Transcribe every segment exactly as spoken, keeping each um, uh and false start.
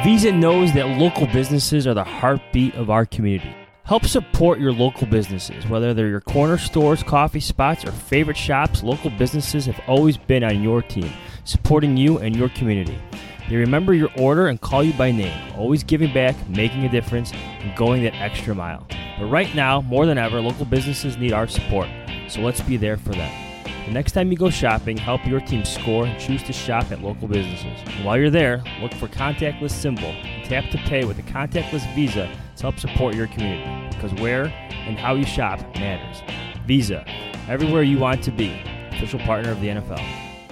Visa knows that local businesses are the heartbeat of our community. Help support your local businesses, whether they're your corner stores, coffee spots, or favorite shops. Local businesses have always been on your team, supporting you and your community. They remember your order and call you by name, always giving back, making a difference, and going that extra mile. But right now, more than ever, local businesses need our support, so let's be there for them. The next time you go shopping, help your team score and choose to shop at local businesses. And while you're there, look for contactless symbol and tap to pay with a contactless Visa to help support your community. Because where and how you shop matters. Visa, everywhere you want to be. Official partner of the N F L.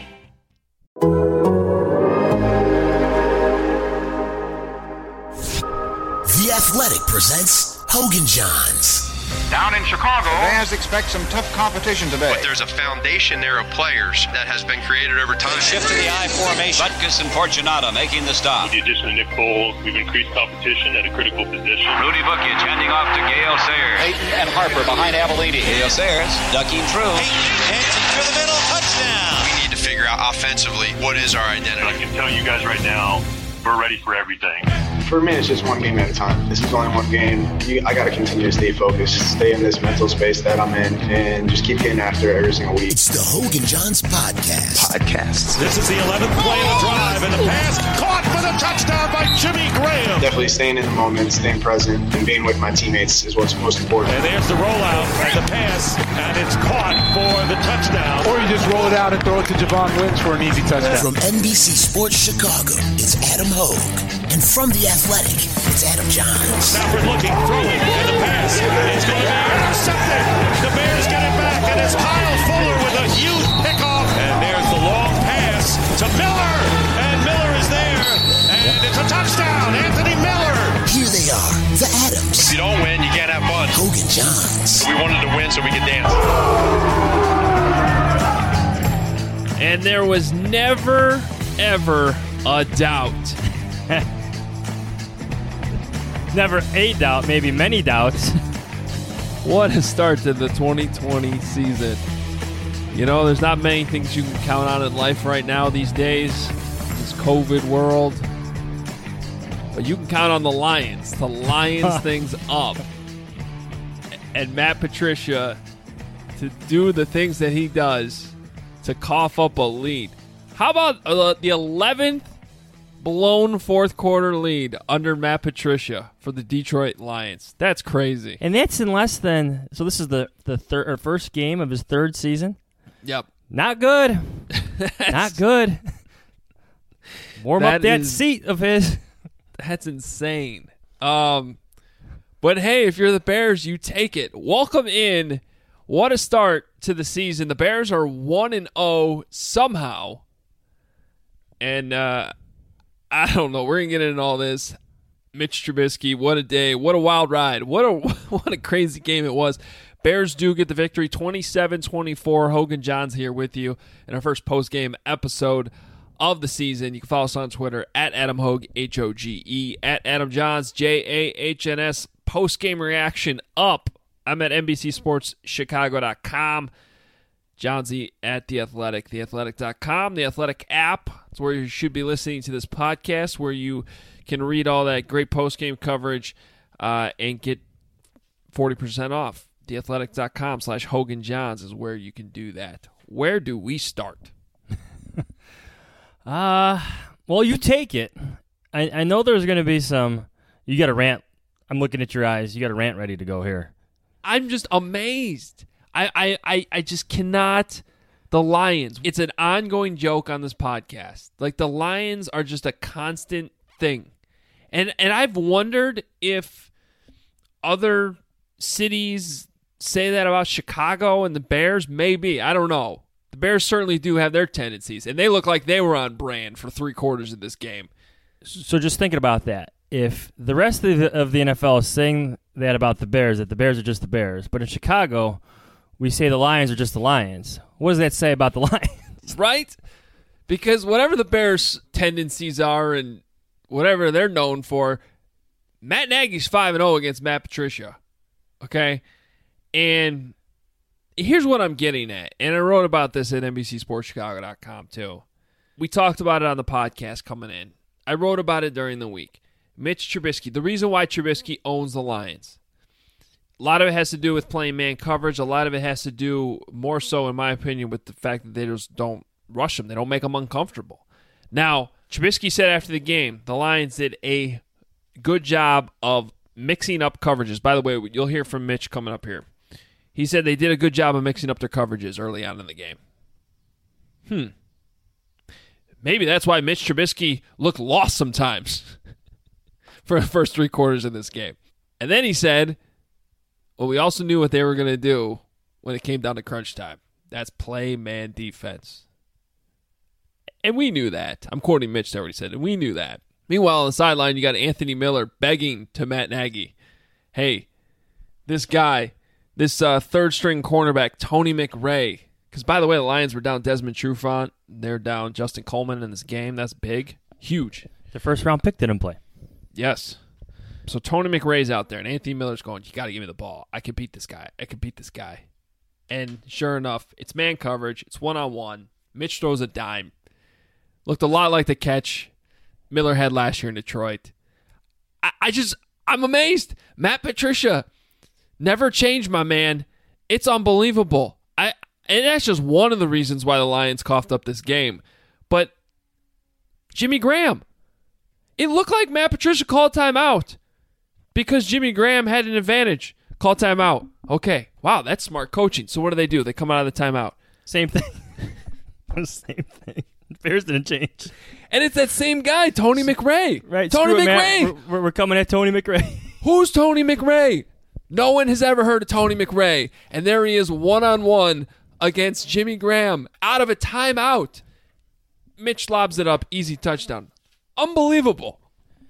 The Athletic presents Hogan Johns. Down in Chicago, fans expect some tough competition today. But there's a foundation there of players that has been created over time. Shift to the I formation. Butkus and Fortunato making the stop. With the addition of Nick Foles, we've increased competition at a critical position. Rudy Bukic handing off to Gale Sayers. Peyton and Harper behind Avellini. Gale Sayers ducking through. Peyton hands it through the middle. Touchdown. We need to figure out offensively what is our identity. I can tell you guys right now, we're ready for everything. For me, it's just one game at a time. This is only one game. You, I got to continue to stay focused, stay in this mental space that I'm in, and just keep getting after it every single week. It's the Hogan Johns Podcast. Podcasts. This is the eleventh play of the drive, and the pass caught for the touchdown by Jimmy Graham. Definitely staying in the moment, staying present, and being with my teammates is what's most important. And there's the rollout and the pass, and it's caught for the touchdown. Or you just roll it out and throw it to Javon Lynch for an easy touchdown. From N B C Sports Chicago, it's Adam Hogue. And from The Athletic, it's Adam Johns. Stafford looking, throwing, and the pass is going to be intercepted. The Bears get it back, and it's Kyle Fuller with a huge pickoff. And there's the long pass to Miller, and Miller is there, and it's a touchdown. Anthony Miller. Here they are, the Adams. If you don't win, you can't have fun. Hogan Johns. We wanted to win so we could dance. And there was never, ever a doubt. Never a doubt, maybe many doubts. What a start to the twenty twenty season. You know, there's not many things you can count on in life right now these days, this COVID world. But you can count on the Lions to Lions things up. And Matt Patricia to do the things that he does to cough up a lead. How about uh, the eleventh blown fourth quarter lead under Matt Patricia for the Detroit Lions? That's crazy. And that's in less than, so this is the, the third or first game of his third season. Yep. Not good. Not good. Warm that up that is, seat of his. That's insane. Um, but hey, if you're the Bears, you take it. Welcome in. What a start to the season. The Bears are one and oh somehow. And, uh, I don't know. We're going to get into all this. Mitch Trubisky, what a day. What a wild ride. What a what a crazy game it was. Bears do get the victory, twenty-seven twenty-four. Hogan Johns here with you in our first post-game episode of the season. You can follow us on Twitter, at Adam Hogue, H O G E, at Adam Johns, J A H N S. Post-game reaction up. I'm at N B C Sports Chicago dot com. Johnsy at The Athletic, the athletic dot com, the Athletic app. It's where you should be listening to this podcast, where you can read all that great post-game coverage uh, and get forty percent off. the athletic dot com slash Hogan Johns is where you can do that. Where do we start? uh, well, you take it. I, I know there's going to be some, you got a rant. I'm looking at your eyes. You got a rant ready to go here. I'm just amazed. I, I, I, I just cannot. The Lions. It's an ongoing joke on this podcast. Like, the Lions are just a constant thing. And and I've wondered if other cities say that about Chicago and the Bears. Maybe. I don't know. The Bears certainly do have their tendencies. And they look like they were on brand for three quarters of this game. So just thinking about that. If the rest of the, of the N F L is saying that about the Bears, that the Bears are just the Bears, but in Chicago, we say the Lions are just the Lions. What does that say about the Lions? Right? Because whatever the Bears' tendencies are and whatever they're known for, Matt Nagy's five and oh against Matt Patricia. Okay? And here's what I'm getting at. And I wrote about this at N B C Sports Chicago dot com too. We talked about it on the podcast coming in. I wrote about it during the week. Mitch Trubisky, the reason why Trubisky owns the Lions. A lot of it has to do with playing man coverage. A lot of it has to do, more so in my opinion, with the fact that they just don't rush them. They don't make them uncomfortable. Now, Trubisky said after the game, the Lions did a good job of mixing up coverages. By the way, you'll hear from Mitch coming up here. He said they did a good job of mixing up their coverages early on in the game. Hmm. Maybe that's why Mitch Trubisky looked lost sometimes for the first three quarters of this game. And then he said, well, we also knew what they were going to do when it came down to crunch time. That's play man defense. And we knew that. I'm quoting Mitch there what he said, and we knew that. Meanwhile, on the sideline, you got Anthony Miller begging to Matt Nagy, hey, this guy, this uh, third-string cornerback, Tony McRae, because, by the way, the Lions were down Desmond Trufant. They're down Justin Coleman in this game. That's big. Huge. The first-round pick didn't play. Yes. So Tony McRae's out there, and Anthony Miller's going, you got to give me the ball. I can beat this guy. I can beat this guy. And sure enough, it's man coverage. It's one-on-one. Mitch throws a dime. Looked a lot like the catch Miller had last year in Detroit. I, I just, I'm amazed. Matt Patricia never changed, my man. It's unbelievable. I And that's just one of the reasons why the Lions coughed up this game. But Jimmy Graham, it looked like Matt Patricia called timeout because Jimmy Graham had an advantage. Call timeout. Okay. Wow, that's smart coaching. So what do they do? They come out of the timeout. Same thing. Same thing. Bears didn't change. And it's that same guy, Tony McRae. Right. Tony screw it, McRae. Matt. We're, we're coming at Tony McRae. Who's Tony McRae? No one has ever heard of Tony McRae. And there he is one-on-one against Jimmy Graham out of a timeout. Mitch lobs it up. Easy touchdown. Unbelievable.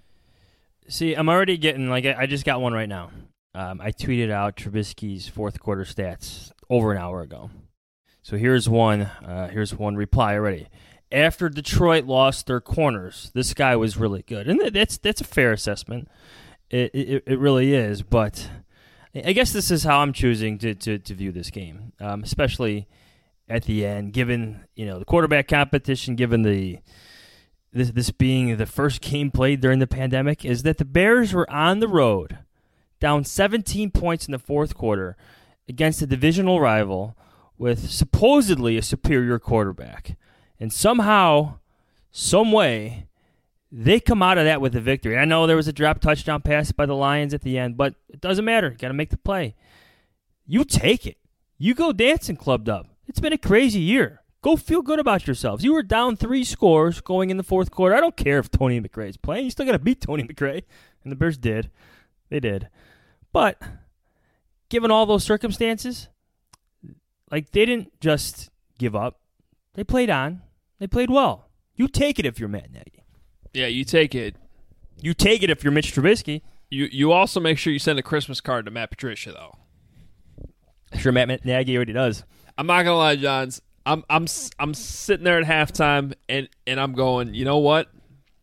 See, I'm already getting, like, I just got one right now. Um, I tweeted out Trubisky's fourth quarter stats over an hour ago. So here's one. Uh, here's one reply already. After Detroit lost their corners, this guy was really good, and that's that's a fair assessment. It it, it really is. But I guess this is how I'm choosing to to, to view this game, um, especially at the end, given you know the quarterback competition, given the this this being the first game played during the pandemic, is that the Bears were on the road, down seventeen points in the fourth quarter against a divisional rival with supposedly a superior quarterback. And somehow, some way, they come out of that with a victory. I know there was a drop touchdown pass by the Lions at the end, but it doesn't matter. You got to make the play. You take it. You go dancing clubbed up. It's been a crazy year. Go feel good about yourselves. You were down three scores going in the fourth quarter. I don't care if Tony McRae is playing. You still got to beat Tony McRae. And the Bears did. They did. But given all those circumstances, like they didn't just give up. They played on. They played well. You take it if you're Matt Nagy. Yeah, you take it. You take it if you're Mitch Trubisky. You you also make sure you send a Christmas card to Matt Patricia, though. I'm sure Matt Nagy already does. I'm not gonna lie, Johns. I'm I'm I'm sitting there at halftime and, and I'm going, you know what?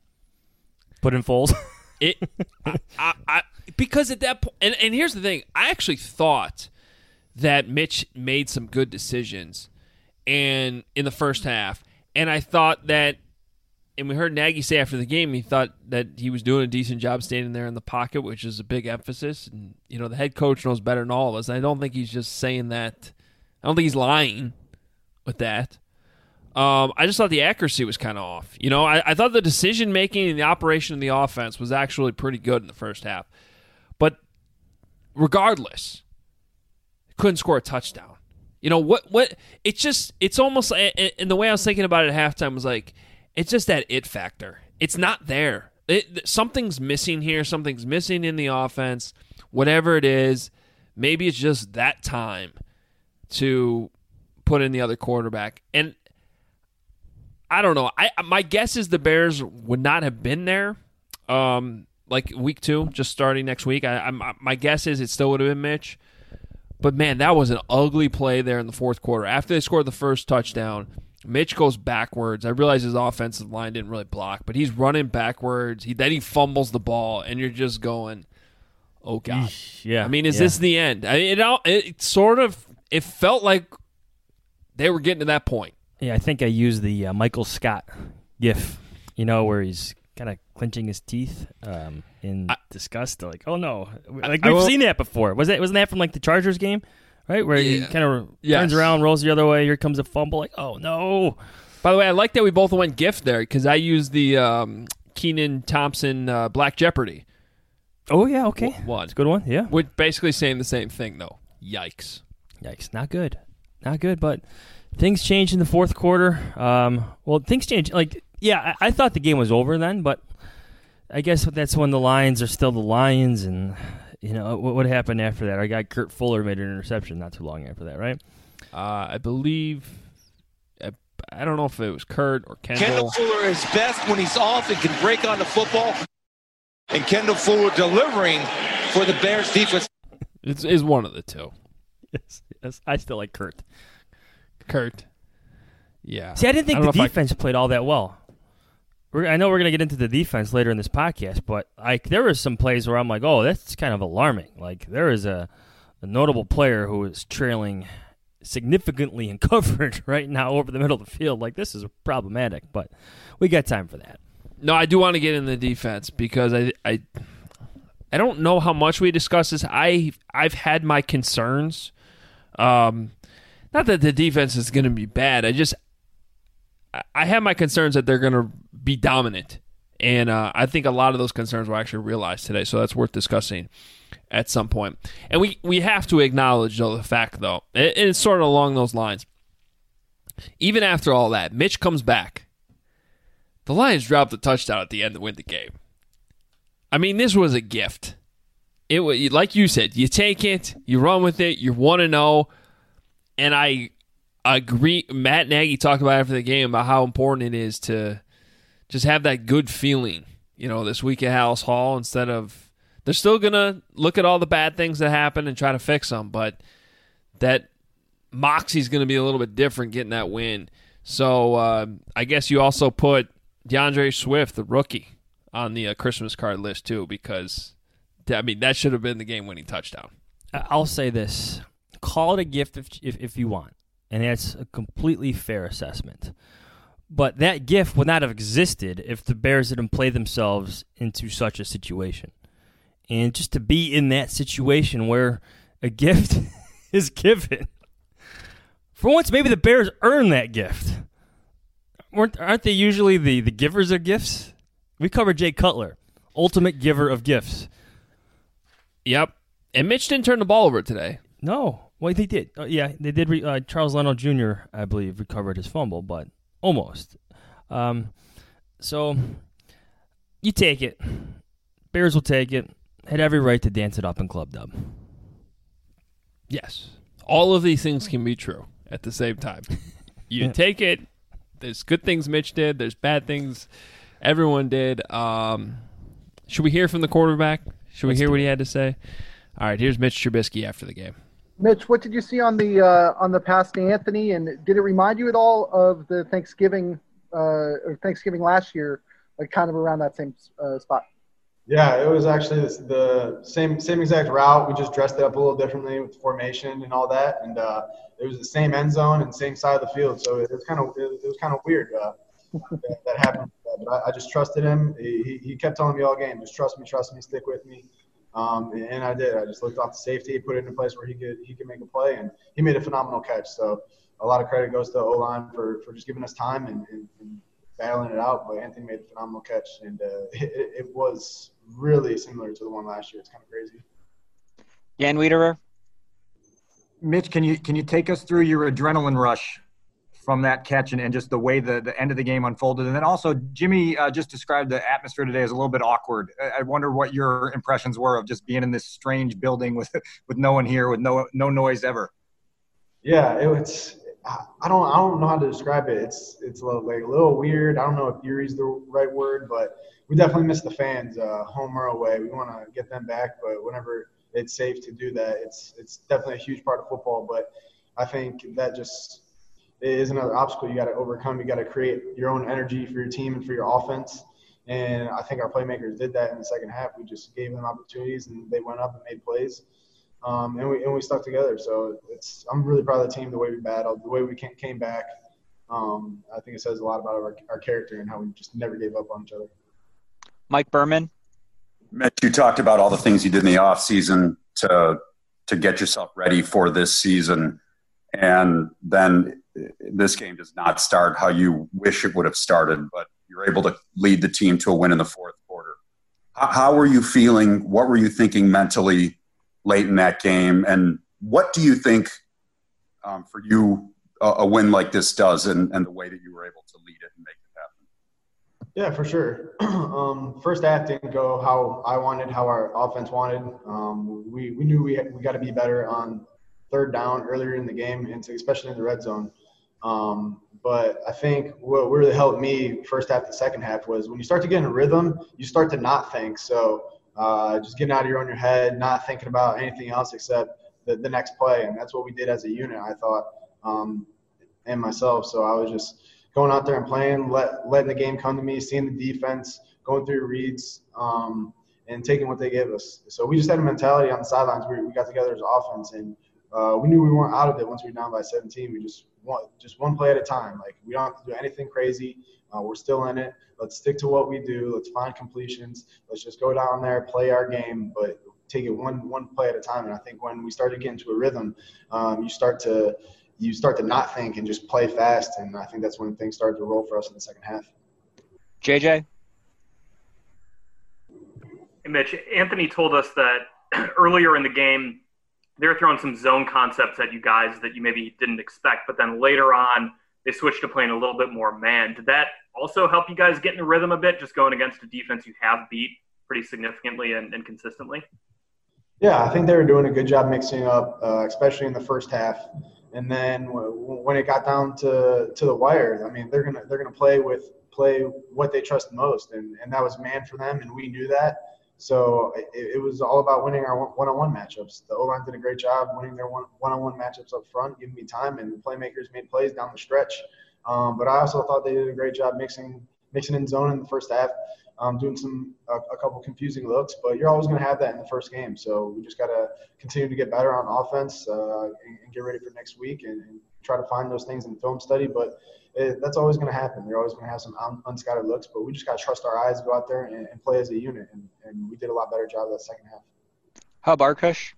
Put in Foles. It I, I, I because at that point, and, and here's the thing, I actually thought that Mitch made some good decisions and in the first half. And I thought that, and we heard Nagy say after the game, he thought that he was doing a decent job standing there in the pocket, which is a big emphasis. And, you know, the head coach knows better than all of us. And I don't think he's just saying that. I don't think he's lying with that. Um, I just thought the accuracy was kind of off. You know, I, I thought the decision-making and the operation of the offense was actually pretty good in the first half. But regardless, couldn't score a touchdown. You know, what? What? It's just, it's almost, and the way I was thinking about it at halftime was like, it's just that it factor. It's not there. It, something's missing here. Something's missing in the offense. Whatever it is, maybe it's just that time to put in the other quarterback. And I don't know. I my guess is the Bears would not have been there, um, like week two, just starting next week. I, I my guess is it still would have been Mitch. But, man, that was an ugly play there in the fourth quarter. After they scored the first touchdown, Mitch goes backwards. I realize his offensive line didn't really block, but he's running backwards. He Then he fumbles the ball, and you're just going, oh, God. Yeah. I mean, is yeah. this the end? I mean, it, it sort of – it felt like they were getting to that point. Yeah, I think I used the uh, Michael Scott gif, you know, where he's kind of clenching his teeth um, in I, disgust. Like, oh no, like I, we've I seen that before. Was that wasn't that from like the Chargers game, right? Where yeah. he kind of yes. turns around, rolls the other way. Here comes a fumble. Like, oh no. By the way, I like that we both went gift there because I used the um, Kenan Thompson uh, Black Jeopardy. Oh yeah, okay, one. It's a good one. Yeah, we're basically saying the same thing though. Yikes! Yikes! Not good. Not good. But things changed in the fourth quarter. Um, well, things changed. Like, yeah, I, I thought the game was over then, but I guess that's when the Lions are still the Lions, and you know what, what happened after that? Our guy Kurt Fuller made an interception not too long after that, right? Uh, I believe. I don't know if it was Kurt or Kendall. Kendall Fuller is best when he's off and can break on the football. And Kendall Fuller delivering for the Bears defense. It's is one of the two. Yes, yes, I still like Kurt. Kurt. Yeah. See, I didn't think I the defense I... played all that well. We're, I know we're going to get into the defense later in this podcast, but like there were some plays where I'm like, oh, that's kind of alarming. Like there is a, a notable player who is trailing significantly in coverage right now over the middle of the field. Like, this is problematic, but we got time for that. No, I do want to get in the defense because I I, I don't know how much we discussed this. I, I've had my concerns. Um, not that the defense is going to be bad. I just I have my concerns that they're going to be dominant. And uh, I think a lot of those concerns were actually realized today, so that's worth discussing at some point. And we, we have to acknowledge, though, the fact, though, and it's sort of along those lines. Even after all that, Mitch comes back. The Lions dropped a touchdown at the end to win the game. I mean, this was a gift. It was, like you said, you take it, you run with it, you're one and oh, and I agree. Matt Nagy talked about after the game about how important it is to just have that good feeling, you know, this week at Hallis Hall instead of – they're still going to look at all the bad things that happen and try to fix them, but that moxie's going to be a little bit different getting that win. So uh, I guess you also put DeAndre Swift, the rookie, on the uh, Christmas card list too because, I mean, that should have been the game-winning touchdown. I'll say this. Call it a gift if if, if you want, and that's a completely fair assessment. But that gift would not have existed if the Bears didn't play themselves into such a situation. And just to be in that situation where a gift is given, for once, maybe the Bears earn that gift. Weren't, aren't they usually the, the givers of gifts? We covered Jay Cutler, ultimate giver of gifts. Yep. And Mitch didn't turn the ball over today. No. Well, they did. Uh, yeah, they did. Re- uh, Charles Leno Junior, I believe, recovered his fumble, but almost. Um, so you take it. Bears will take it. Had every right to dance it up in Club Dub. Yes. All of these things can be true at the same time. You yeah. take it. There's good things Mitch did. There's bad things everyone did. Um, should we hear from the quarterback? Should Let's we hear what he had to say? All right, here's Mitch Trubisky after the game. Mitch, what did you see on the uh, on the pass to Anthony, and did it remind you at all of the Thanksgiving uh, or Thanksgiving last year, like kind of around that same uh, spot? Yeah, it was actually the same same exact route. We just dressed it up a little differently with the formation and all that, and uh, it was the same end zone and same side of the field. So it was kind of it was kind of weird uh, that, that happened. But I, I just trusted him. He, he kept telling me all game, just trust me, trust me, stick with me. Um, and, and I did. I just looked off the safety, put it in a place where he could he could make a play, and he made a phenomenal catch. So a lot of credit goes to O-line for, for just giving us time and, and, and battling it out. But Anthony made a phenomenal catch, and uh, it, it was really similar to the one last year. It's kind of crazy. Jan Wiederer? Mitch, can you can you take us through your adrenaline rush from that catch and, and just the way the, the end of the game unfolded? And then also, Jimmy uh, just described the atmosphere today as a little bit awkward. I, I wonder what your impressions were of just being in this strange building with with no one here, with no no noise ever. Yeah, it was. I don't I don't know how to describe it. It's it's a little, like a little weird. I don't know if eerie is the right word, but we definitely miss the fans, uh, home or away. We want to get them back, but whenever it's safe to do that, it's it's definitely a huge part of football. But I think that just is another obstacle you got to overcome. You got to create your own energy for your team and for your offense. And I think our playmakers did that in the second half. We just gave them opportunities, and they went up and made plays. Um, and we and we stuck together. So it's I'm really proud of the team, the way we battled, the way we came back. Um, I think it says a lot about our, our character and how we just never gave up on each other. Mike Berman. Mitch, you talked about all the things you did in the offseason to to get yourself ready for this season. And then this game does not start how you wish it would have started, but you're able to lead the team to a win in the fourth quarter. How, how were you feeling? What were you thinking mentally late in that game? And what do you think um, for you a, a win like this does and, and the way that you were able to lead it and make it happen? Yeah, for sure. um, first half didn't go how I wanted, how our offense wanted. Um, we, we knew we had, we got to be better on third down earlier in the game, and especially in the red zone. Um, but I think what really helped me first half to second half was when you start to get in a rhythm, you start to not think. So uh, just getting out of your own your head, not thinking about anything else except the, the next play. And that's what we did as a unit, I thought, um, and myself. So I was just going out there and playing, let, letting the game come to me, seeing the defense, going through reads, um, and taking what they gave us. So we just had a mentality on the sidelines. We, we got together as offense, and uh, we knew we weren't out of it once we were down by seventeen. We just want just one play at a time. Like, we don't have to do anything crazy. Uh, we're still in it. Let's stick to what we do. Let's find completions. Let's just go down there, play our game, but take it one one play at a time. And I think when we started getting to a rhythm, um, you start to you start to not think and just play fast. And I think that's when things started to roll for us in the second half. J J? Hey, Mitch, Anthony told us that earlier in the game, they were throwing some zone concepts at you guys that you maybe didn't expect, but then later on they switched to playing a little bit more man. Did that also help you guys get in the rhythm a bit, just going against a defense you have beat pretty significantly and, and consistently? Yeah, I think they were doing a good job mixing up, uh, especially in the first half. And then w- when it got down to, to the wire, I mean, they're gonna they're gonna play with play what they trust most, and, and that was man for them, and we knew that. So it, it was all about winning our one-on-one matchups. The O-line did a great job winning their one, one-on-one matchups up front, giving me time, and the playmakers made plays down the stretch. Um, but I also thought they did a great job mixing mixing in zone in the first half, um, doing some a, a couple confusing looks. But you're always going to have that in the first game. So we just got to continue to get better on offense uh, and, and get ready for next week and, and try to find those things in film study. But it, that's always going to happen. You're always going to have some un- unscattered looks, but we just got to trust our eyes, go out there and, and play as a unit. And, and we did a lot better job that second half. How about Arkush?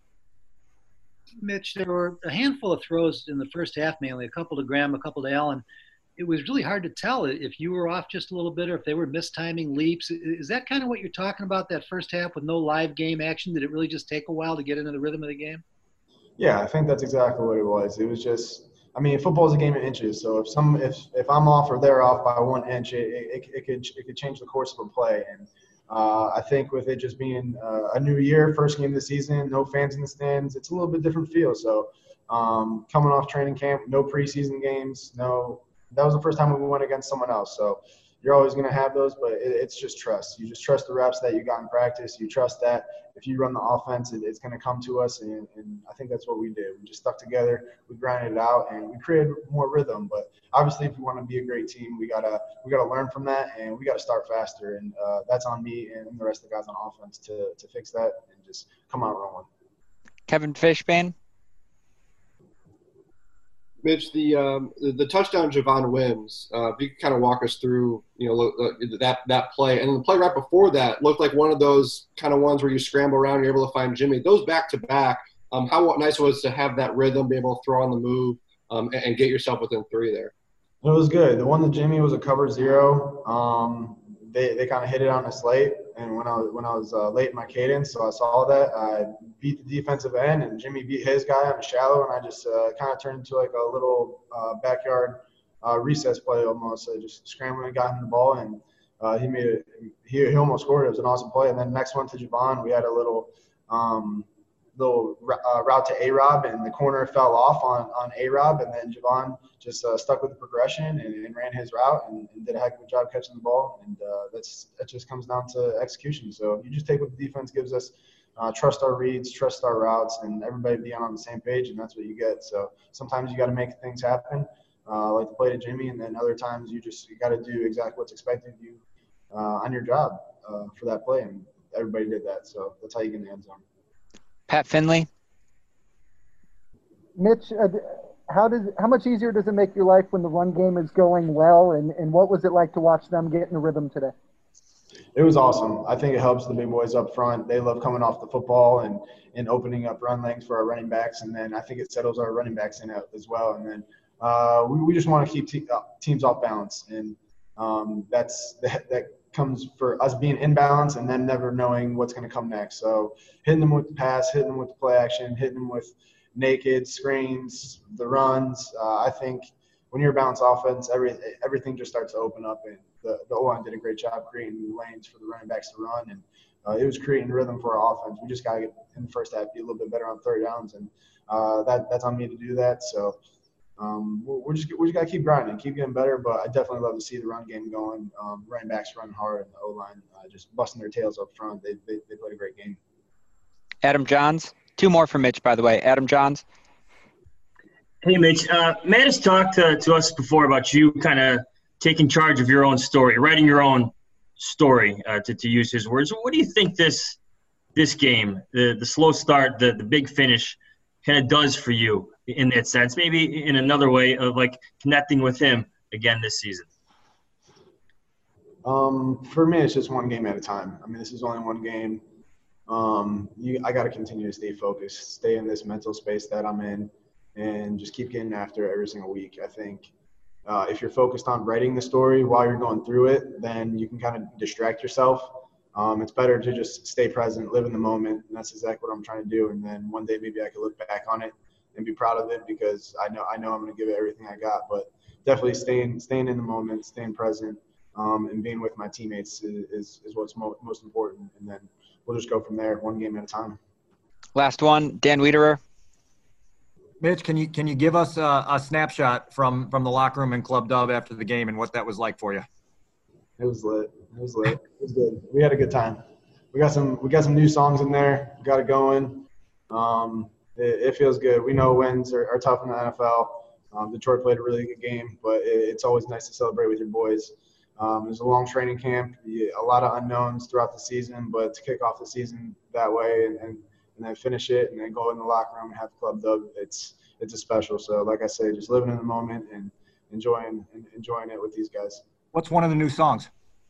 Mitch, there were a handful of throws in the first half, mainly a couple to Graham, a couple to Allen. It was really hard to tell if you were off just a little bit or if they were mistiming leaps. Is that kind of what you're talking about, that first half with no live game action? Did it really just take a while to get into the rhythm of the game? Yeah, I think that's exactly what it was. It was just – I mean, football is a game of inches. So if some, if, if I'm off or they're off by one inch, it, it, it could it could change the course of a play. And uh, I think with it just being uh, a new year, first game of the season, no fans in the stands, it's a little bit different feel. So um, coming off training camp, no preseason games, no. That was the first time we went against someone else. So you're always going to have those, but it, it's just trust. You just trust the reps that you got in practice. You trust that if you run the offense, it, it's going to come to us. And, and I think that's what we did. We just stuck together. We grinded it out, and we created more rhythm. But obviously, if we want to be a great team, we gotta we gotta learn from that, and we gotta start faster. And uh, that's on me and the rest of the guys on offense to to fix that and just come out rolling. Kevin Fishbane. Mitch, the um, the, the touchdown Javon Wims, uh, if you could kind of walk us through, you know, look, look, that that play, and the play right before that looked like one of those kind of ones where you scramble around, you're able to find Jimmy. Those back to back, um, how nice it was to have that rhythm, be able to throw on the move, um, and, and get yourself within three there. It was good. The one that Jimmy was a cover zero. Um, they they kind of hit it on us late, and when I was when I was uh, late in my cadence, so I saw that I beat the defensive end, and Jimmy beat his guy on a shallow, and I just uh, kind of turned into like a little uh, backyard uh, recess play almost. I just scrambled and got him the ball, and uh, he made it. He, he almost scored. It was an awesome play. And then next one to Javon, we had a little um, little uh, route to A-Rob, and the corner fell off on, on A-Rob, and then Javon just uh, stuck with the progression and, and ran his route and, and did a heck of a job catching the ball. And uh, that's that just comes down to execution. So you just take what the defense gives us, uh, trust our reads, trust our routes, and everybody be on the same page, and that's what you get. So sometimes you got to make things happen, uh, like the play to Jimmy, and then other times you just you got to do exactly what's expected of you uh, on your job uh, for that play, and everybody did that. So that's how you get in the end zone. Pat Finley. Mitch, uh, how does how much easier does it make your life when the run game is going well, and, and what was it like to watch them get in a rhythm today? it was awesome. I think it helps the big boys up front. They love coming off the football and, and opening up run lanes for our running backs. And then I think it settles our running backs in as well. And then uh, we, we just want to keep te- uh, teams off balance. And um, that's that, that comes for us being in balance and then never knowing what's going to come next. So hitting them with the pass, hitting them with the play action, hitting them with naked screens, the runs. Uh, I think when you're a balanced offense, every, everything just starts to open up. And the, the O-line did a great job creating lanes for the running backs to run. And uh, it was creating rhythm for our offense. We just got to get in the first half, be a little bit better on third downs. And uh, that that's on me to do that. So um, we're, we're just we just got to keep grinding, keep getting better. But I definitely love to see the run game going. Um, running backs running hard, and the O-line uh, just busting their tails up front. They, they they played a great game. Adam Johns. Two more from Mitch, by the way. Adam Johns. Hey, Mitch. Uh, Matt has talked to, to us before about you kind of taking charge of your own story, writing your own story, uh, to, to use his words. What do you think this this game, the, the slow start, the, the big finish, kind of does for you in that sense? Maybe in another way of, like, connecting with him again this season. Um, for me, it's just one game at a time. I mean, this is only one game. Um, you, I got to continue to stay focused, stay in this mental space that I'm in, and just keep getting after it every single week. I think uh, if you're focused on writing the story while you're going through it, then you can kind of distract yourself. Um, it's better to just stay present, live in the moment, and that's exactly what I'm trying to do. And then one day maybe I can look back on it and be proud of it because I know I know I'm going to give it everything I got. But definitely staying staying in the moment, staying present, um, and being with my teammates is is, is what's mo- most important. And then we'll just go from there, one game at a time. Last one, Dan Wiederer. Mitch, can you can you give us a, a snapshot from, from the locker room in Club Dub after the game and what that was like for you? It was lit. It was lit. It was good. We had a good time. We got some we got some new songs in there. We got it going. Um, it, it feels good. We know wins are, are tough in the N F L. Um, Detroit played a really good game, but it, it's always nice to celebrate with your boys. Um, it was a long training camp, a lot of unknowns throughout the season, but to kick off the season that way and, and, and then finish it and then go in the locker room and have Club Dub, it's it's a special. So like I say, just living in the moment and enjoying and enjoying it with these guys. What's one of the new songs?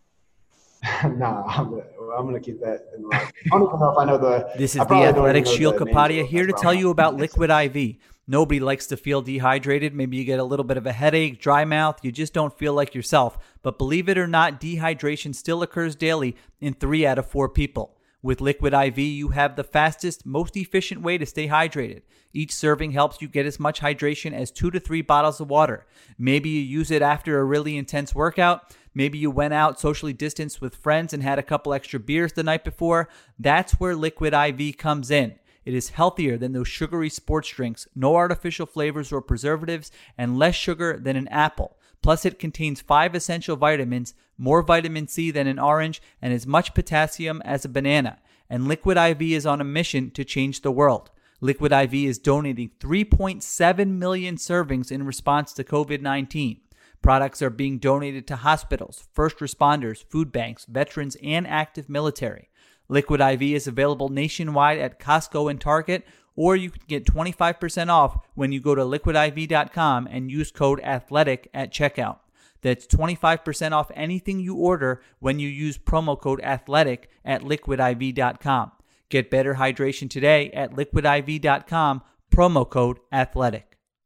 nah, I'm gonna, I'm gonna keep that in the locker. I don't even know if I know the. This is the Athletic Shield Kapadia here to tell you about Liquid I V. Nobody likes to feel dehydrated. Maybe you get a little bit of a headache, dry mouth. You just don't feel like yourself. But believe it or not, dehydration still occurs daily in three out of four people. With Liquid I V, you have the fastest, most efficient way to stay hydrated. Each serving helps you get as much hydration as two to three bottles of water. Maybe you use it after a really intense workout. Maybe you went out socially distanced with friends and had a couple extra beers the night before. That's where Liquid I V comes in. It is healthier than those sugary sports drinks, no artificial flavors or preservatives, and less sugar than an apple. Plus, it contains five essential vitamins, more vitamin C than an orange, and as much potassium as a banana. And Liquid I V is on a mission to change the world. Liquid I V is donating three point seven million servings in response to covid nineteen. Products are being donated to hospitals, first responders, food banks, veterans, and active military. Liquid I V is available nationwide at Costco and Target, or you can get twenty-five percent off when you go to liquid I V dot com and use code ATHLETIC at checkout. That's twenty-five percent off anything you order when you use promo code ATHLETIC at liquid I V dot com. Get better hydration today at liquid I V dot com, promo code ATHLETIC.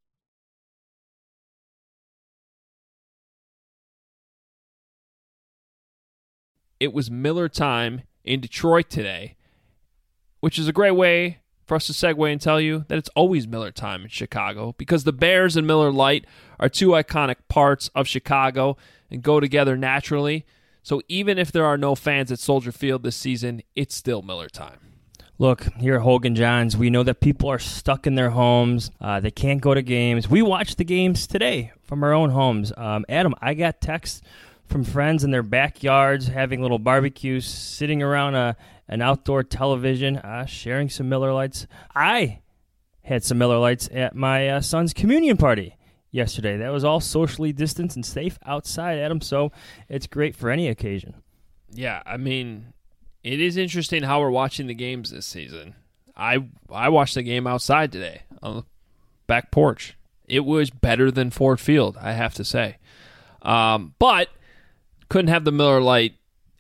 It was Miller time in Detroit today, which is a great way for us to segue and tell you that it's always Miller time in Chicago because the Bears and Miller Lite are two iconic parts of Chicago and go together naturally. So even if there are no fans at Soldier Field this season, it's still Miller time. Look, here at Hogan Johns, we know that people are stuck in their homes. Uh, they can't go to games. We watch the games today from our own homes. Um, Adam, I got texts from friends in their backyards having little barbecues, sitting around a, an outdoor television, uh, sharing some Miller Lights. I had some Miller Lights at my uh, son's communion party yesterday. That was all socially distanced and safe outside, Adam, so it's great for any occasion. Yeah, I mean, it is interesting how we're watching the games this season. I I watched the game outside today on the back porch. It was better than Ford Field, I have to say. Um, but couldn't have the Miller Lite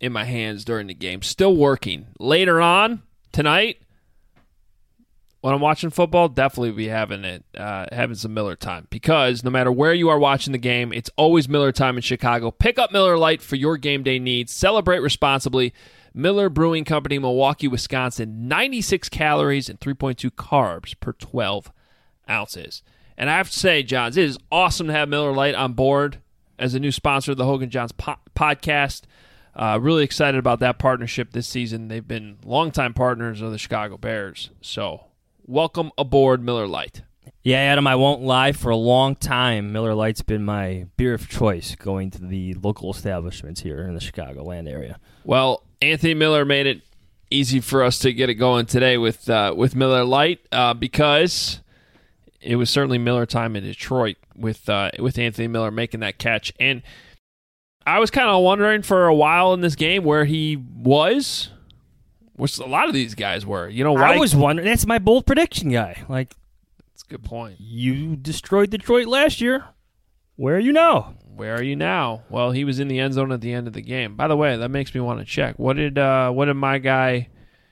in my hands during the game. Still working. Later on tonight, when I'm watching football, definitely be having it, uh, having some Miller time, because no matter where you are watching the game, it's always Miller time in Chicago. Pick up Miller Lite for your game day needs. Celebrate responsibly. Miller Brewing Company, Milwaukee, Wisconsin. ninety-six calories and three point two carbs per twelve ounces. And I have to say, Johns, it is awesome to have Miller Lite on board as a new sponsor of the Hogan Johns po- podcast. Uh, really excited about that partnership this season. They've been longtime partners of the Chicago Bears. So welcome aboard Miller Lite. Yeah, Adam, I won't lie. For a long time, Miller Lite's been my beer of choice going to the local establishments here in the Chicagoland area. Well, Anthony Miller made it easy for us to get it going today with uh, with Miller Lite uh, because it was certainly Miller time in Detroit with uh, with Anthony Miller making that catch. And I was kind of wondering for a while in this game where he was, which a lot of these guys were. You know, why? I was wondering. That's my bold prediction, guy. Like, that's a good point. You destroyed Detroit last year. Where are you now? Where are you now? Well, he was in the end zone at the end of the game. By the way, that makes me want to check. What did uh, what did my guy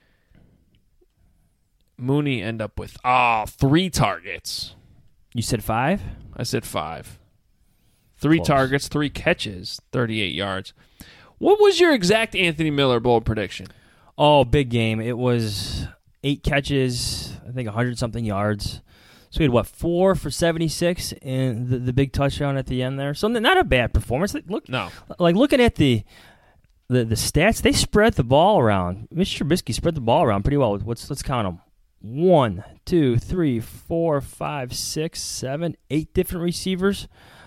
Mooney end up with? Ah, oh, three targets. You said five? I said five. Three Close. targets, three catches, thirty-eight yards. What was your exact Anthony Miller bold prediction? Oh, big game. It was eight catches, I think one hundred something yards. So we had, what, four for seventy-six and the, the big touchdown at the end there. So not a bad performance. Look, no. Like, looking at the, the the stats, they spread the ball around. Mister Trubisky spread the ball around pretty well. Let's, let's count them. One, two, three, four, five, six, seven, eight different receivers.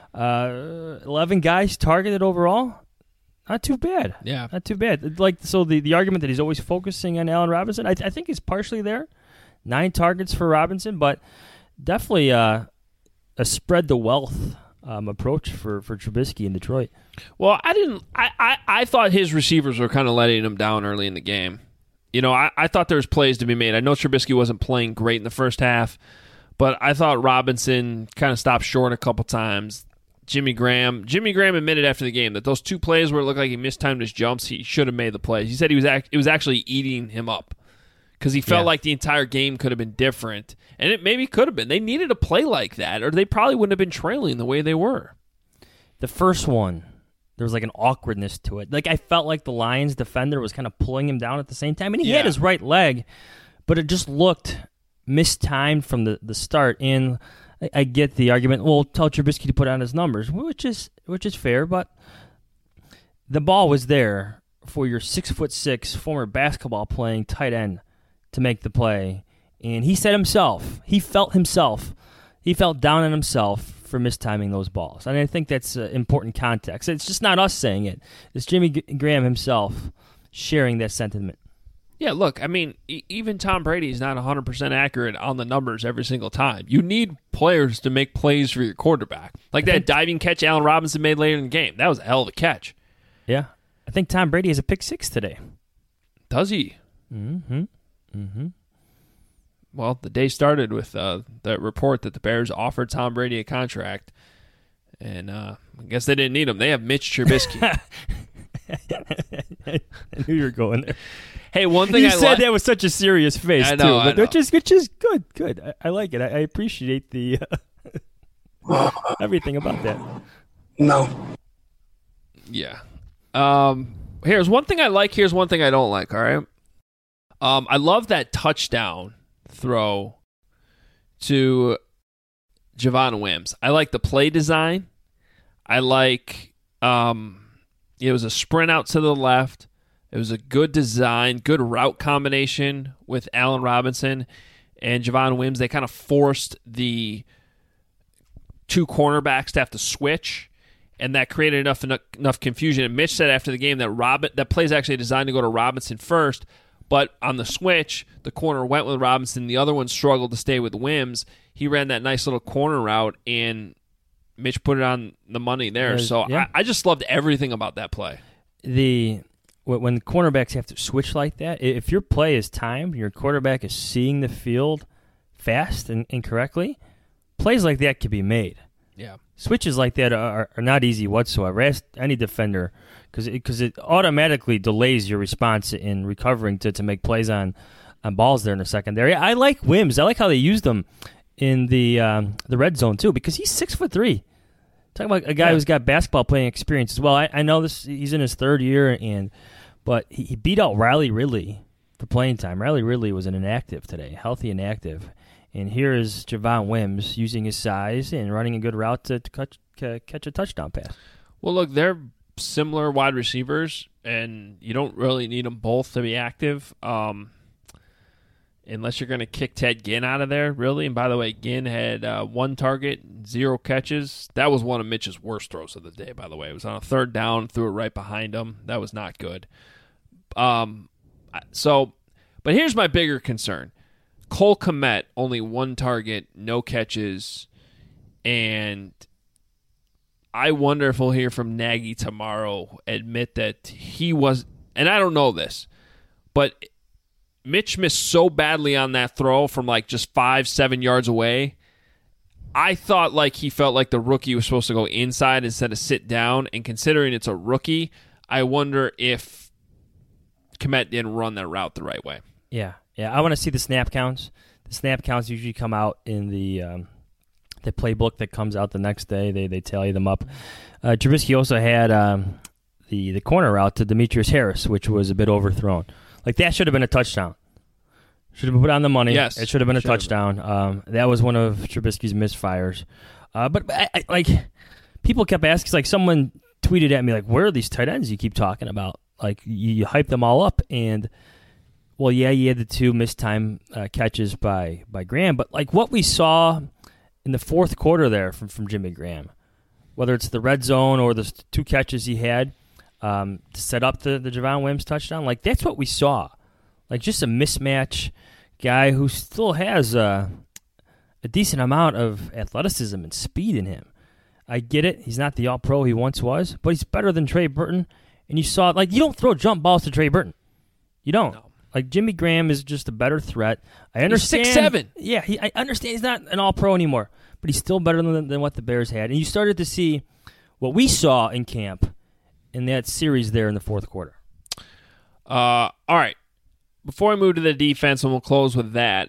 Uh, eleven guys targeted overall. Not too bad. Yeah. Not too bad. Like, so the, the argument that he's always focusing on Allen Robinson, I, I think is partially there. Nine targets for Robinson, but definitely uh, a spread the wealth um, approach for, for Trubisky in Detroit. Well, I didn't. I, I, I thought his receivers were kind of letting him down early in the game. You know, I, I thought there was plays to be made. I know Trubisky wasn't playing great in the first half, but I thought Robinson kind of stopped short a couple times. Jimmy Graham, Jimmy Graham admitted after the game that those two plays where it looked like he mistimed his jumps, he should have made the plays. He said he was act, it was actually eating him up because he felt yeah. like the entire game could have been different, and it maybe could have been. They needed a play like that, or they probably wouldn't have been trailing the way they were. The first one, there was like an awkwardness to it. Like, I felt like the Lions defender was kind of pulling him down at the same time, and he yeah. had his right leg, but it just looked mistimed from the, the start. And I, I get the argument, well, tell Trubisky to put on his numbers, which is which is fair, but the ball was there for your six foot six former basketball playing tight end to make the play. And he said himself, he felt himself, he felt down on himself for mistiming those balls. And I think that's uh, important context. It's just not us saying it. It's Jimmy G- Graham himself sharing that sentiment. Yeah, look, I mean, e- even Tom Brady is not one hundred percent accurate on the numbers every single time. You need players to make plays for your quarterback. Like I that think, diving catch Allen Robinson made later in the game. That was a hell of a catch. Yeah. I think Tom Brady has a pick six today. Does he? Mm-hmm. Mm-hmm. Well, the day started with uh, the report that the Bears offered Tom Brady a contract, and uh, I guess they didn't need him. They have Mitch Trubisky. I knew you were going there. Hey, one thing you I said li- that with such a serious face I know, too, I but know. which is which is good, good. I, I like it. I, I appreciate the uh, everything about that. No. Yeah. Um. Here's one thing I like. Here's one thing I don't like. All right. Um. I love that touchdown throw to Javon Wims. I like the play design. I like. Um. It was a sprint out to the left. It was a good design, good route combination with Allen Robinson and Javon Wims. They kind of forced the two cornerbacks to have to switch, and that created enough enough confusion. And Mitch said after the game that Robin that play is actually designed to go to Robinson first, but on the switch, the corner went with Robinson. The other one struggled to stay with Wims. He ran that nice little corner route, and Mitch put it on the money there. So yeah. I, I just loved everything about that play. The when cornerbacks have to switch like that, if your play is timed, your quarterback is seeing the field fast and, and correctly, plays like that could be made. Yeah. Switches like that are, are not easy whatsoever. Ask any defender, because it, cause it automatically delays your response in recovering to, to make plays on, on balls there in the secondary. I like Wims. I like how they used him in the um, the red zone too, because he's six foot three. Talking about a guy yeah. who's got basketball playing experience as well. I, I know this. He's in his third year, and but he, he beat out Riley Ridley for playing time. Riley Ridley was an inactive today, healthy and active. And here is Javon Wims using his size and running a good route to, to catch, to catch a touchdown pass. Well, look, they're similar wide receivers, and you don't really need them both to be active um, unless you're going to kick Ted Ginn out of there, really. And by the way, Ginn had uh, one target, zero catches. That was one of Mitch's worst throws of the day, by the way. It was on a third down, threw it right behind him. That was not good. Um, so, but here's my bigger concern. Cole Kmet, only one target, no catches, and I wonder if we'll hear from Nagy tomorrow admit that he was, and I don't know this, but Mitch missed so badly on that throw from like just five, seven yards away. I thought like he felt like the rookie was supposed to go inside instead of sit down, and considering it's a rookie, I wonder if Kmet didn't run that route the right way. Yeah. Yeah, I want to see the snap counts. The snap counts usually come out in the um, the playbook that comes out the next day. They they tally them up. Uh, Trubisky also had um, the the corner route to Demetrius Harris, which was a bit overthrown. Like that should have been a touchdown. Should have been put on the money. Yes, it should have been a touchdown. Um, that was one of Trubisky's misfires. Uh, but I, I, like people kept asking, like someone tweeted at me, like, "Where are these tight ends you keep talking about? Like you, you hype them all up and." Well, yeah, you had the two missed time uh, catches by, by Graham, but like what we saw in the fourth quarter there from, from Jimmy Graham, whether it's the red zone or the two catches he had um, to set up the, the Javon Wims touchdown, like that's what we saw. Like just a mismatch guy who still has uh, a decent amount of athleticism and speed in him. I get it. He's not the all-pro he once was, but he's better than Trey Burton. And you saw, like, you don't throw jump balls to Trey Burton. You don't. No. Like, Jimmy Graham is just a better threat. I understand. He's six seven. Yeah, he, I understand he's not an all-pro anymore, but he's still better than, than what the Bears had. And you started to see what we saw in camp in that series there in the fourth quarter. Uh, all right. Before I move to the defense, and we'll close with that,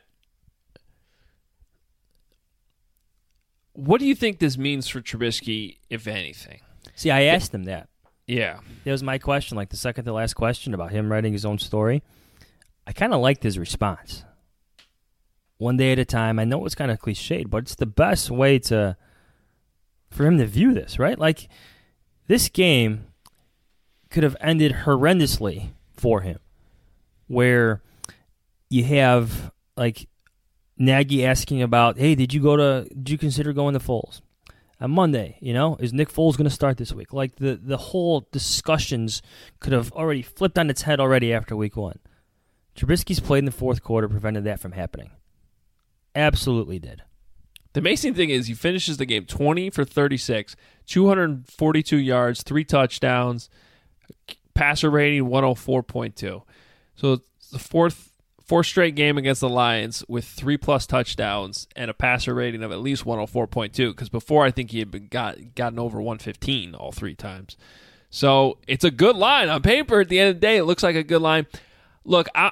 what do you think this means for Trubisky, if anything? See, I asked him that. Yeah. That was my question, like the second to last question about him writing his own story. I kind of liked his response. One day at a time. I know it's kind of cliched, but it's the best way to for him to view this, right? Like, this game could have ended horrendously for him, where you have, like, Nagy asking about, hey, did you go to, did you consider going to Foles? On Monday, you know, is Nick Foles going to start this week? Like, the, the whole discussions could have already flipped on its head already after week one. Trubisky's played in the fourth quarter, prevented that from happening. Absolutely did. The amazing thing is he finishes the game twenty for thirty-six, two hundred forty-two yards, three touchdowns, passer rating one oh four point two. So it's the fourth fourth straight game against the Lions with three-plus touchdowns and a passer rating of at least one oh four point two, because before I think he had been got, gotten over one fifteen all three times. So it's a good line. On paper, at the end of the day, it looks like a good line. Look, I,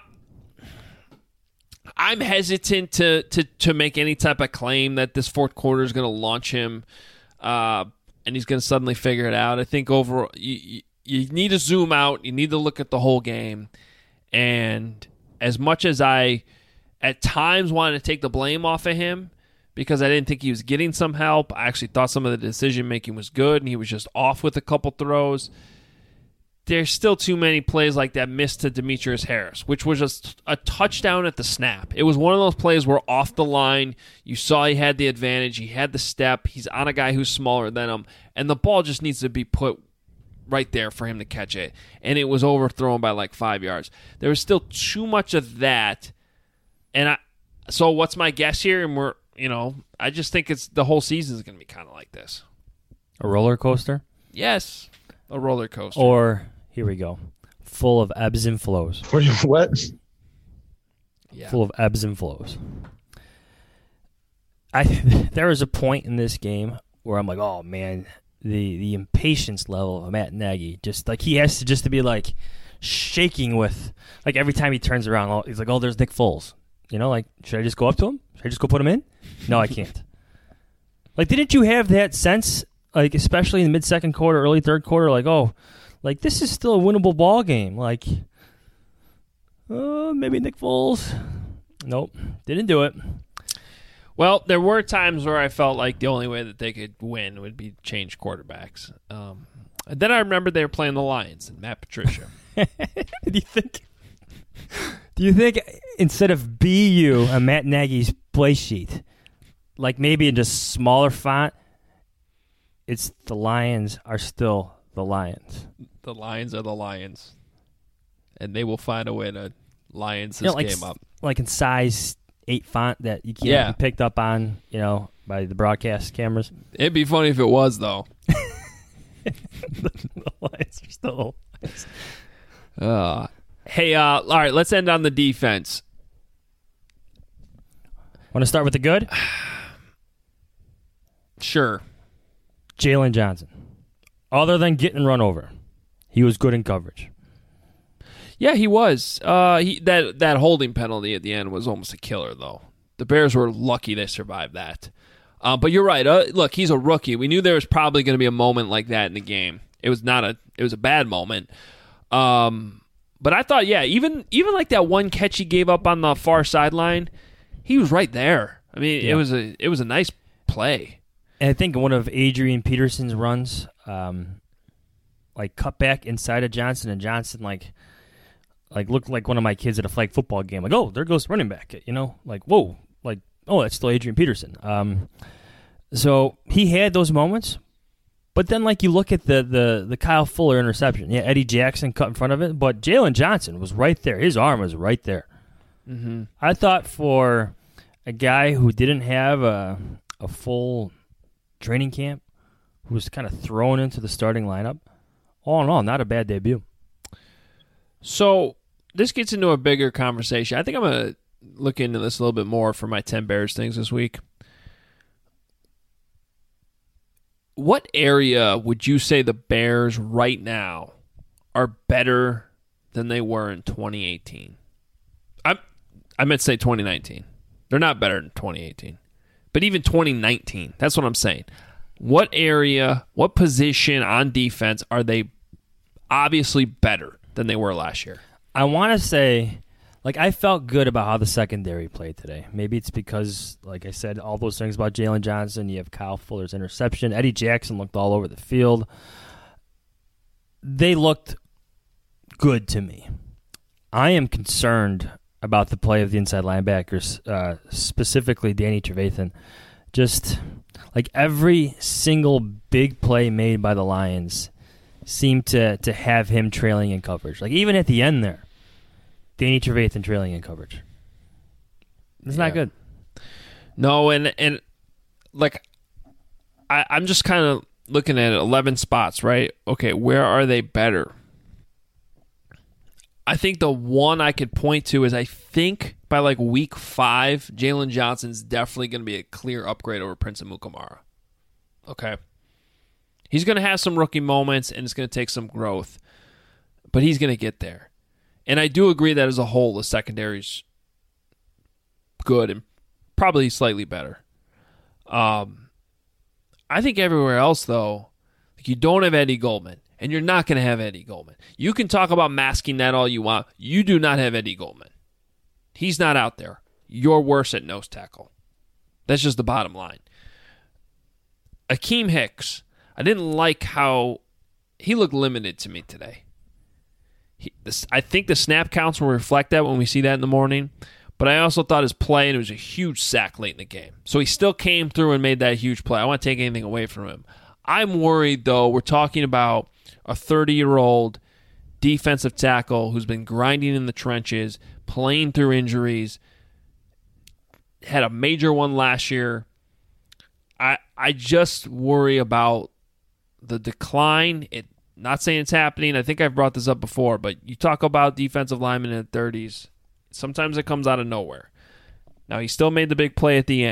I'm hesitant to, to, to make any type of claim that this fourth quarter is going to launch him uh, and he's going to suddenly figure it out. I think overall you, you need to zoom out. You need to look at the whole game. And as much as I at times wanted to take the blame off of him because I didn't think he was getting some help, I actually thought some of the decision-making was good and he was just off with a couple throws. There's still too many plays like that missed to Demetrius Harris, which was just a touchdown at the snap. It was one of those plays where off the line, you saw he had the advantage, he had the step, he's on a guy who's smaller than him, and the ball just needs to be put right there for him to catch it. And it was overthrown by like five yards. There was still too much of that. And I, so what's my guess here? And we're, you know, I just think it's the whole season is going to be kind of like this. A roller coaster? Yes, a roller coaster. Or, here we go, full of ebbs and flows. What? Yeah. Full of ebbs and flows. I there was a point in this game where I'm like, oh man, the the impatience level of Matt Nagy, just like he has to just to be like shaking with, like every time he turns around, he's like, oh, there's Nick Foles. You know, like, should I just go up to him? Should I just go put him in? No, I can't. Like, didn't you have that sense, like, especially in the mid-second quarter, early third quarter, like, oh, like, this is still a winnable ball game. Like, uh, maybe Nick Foles. Nope, didn't do it. Well, there were times where I felt like the only way that they could win would be change quarterbacks. Um, and then I remember they were playing the Lions and Matt Patricia. Do you think? Do you think instead of B U on Matt Nagy's play sheet, like maybe in just smaller font, it's the Lions are still the Lions. The Lions are the Lions, and they will find a way to Lions this you know, like, game up. Like in size eight font that you can't yeah. be picked up on, you know, by the broadcast cameras. It'd be funny if it was, though. the, the Lions are still Lions. Uh, hey, uh, all right, let's end on the defense. Want to start with the good? Sure. Jalen Johnson. Other than getting run over, he was good in coverage. Yeah, he was. Uh, he that that holding penalty at the end was almost a killer, though. The Bears were lucky they survived that. Uh, but you're right. Uh, look, he's a rookie. We knew there was probably going to be a moment like that in the game. It was not a. It was a bad moment. Um, but I thought, yeah, even even like that one catch he gave up on the far sideline, he was right there. I mean, yeah. it was a it was a nice play. And I think one of Adrian Peterson's runs, um, like cut back inside of Johnson, and Johnson like. Like, looked like one of my kids at a flag football game. Like, oh, there goes running back. You know, like, whoa. Like, oh, that's still Adrian Peterson. Um, so he had those moments. But then, like, you look at the, the, the Kyle Fuller interception. Yeah, Eddie Jackson cut in front of it. But Jalen Johnson was right there. His arm was right there. Mm-hmm. I thought for a guy who didn't have a, a full training camp, who was kind of thrown into the starting lineup, all in all, not a bad debut. So this gets into a bigger conversation. I think I'm going to look into this a little bit more for my ten Bears things this week. What area would you say the Bears right now are better than they were in twenty eighteen? I I meant to say twenty nineteen. They're not better than twenty eighteen. But even twenty nineteen, that's what I'm saying. What area, what position on defense are they obviously better than they were last year? I want to say, like, I felt good about how the secondary played today. Maybe it's because, like I said, all those things about Jalen Johnson. You have Kyle Fuller's interception. Eddie Jackson looked all over the field. They looked good to me. I am concerned about the play of the inside linebackers, uh, specifically Danny Trevathan. Just, like, every single big play made by the Lions seemed to to have him trailing in coverage. Like, even at the end there, Danny Trevathan trailing in coverage. It's yeah. not good. No, and, and like, I, I'm just kind of looking at eleven spots, right? Okay, where are they better? I think the one I could point to is I think by, like, week five, Jalen Johnson's definitely going to be a clear upgrade over Prince Amukamara. Okay? He's going to have some rookie moments, and it's going to take some growth. But he's going to get there. And I do agree that as a whole, the secondary's good and probably slightly better. Um, I think everywhere else, though, like you don't have Eddie Goldman, and you're not going to have Eddie Goldman. You can talk about masking that all you want. You do not have Eddie Goldman. He's not out there. You're worse at nose tackle. That's just the bottom line. Akeem Hicks. I didn't like how he looked limited to me today. He, this, I think the snap counts will reflect that when we see that in the morning, but I also thought his play, and it was a huge sack late in the game. So he still came through and made that huge play. I don't want to take anything away from him. I'm worried, though, we're talking about a thirty-year-old defensive tackle who's been grinding in the trenches, playing through injuries, had a major one last year. I I just worry about the decline. It not saying it's happening. I think I've brought this up before, but you talk about defensive linemen in the thirties. Sometimes it comes out of nowhere. Now, he still made the big play at the end.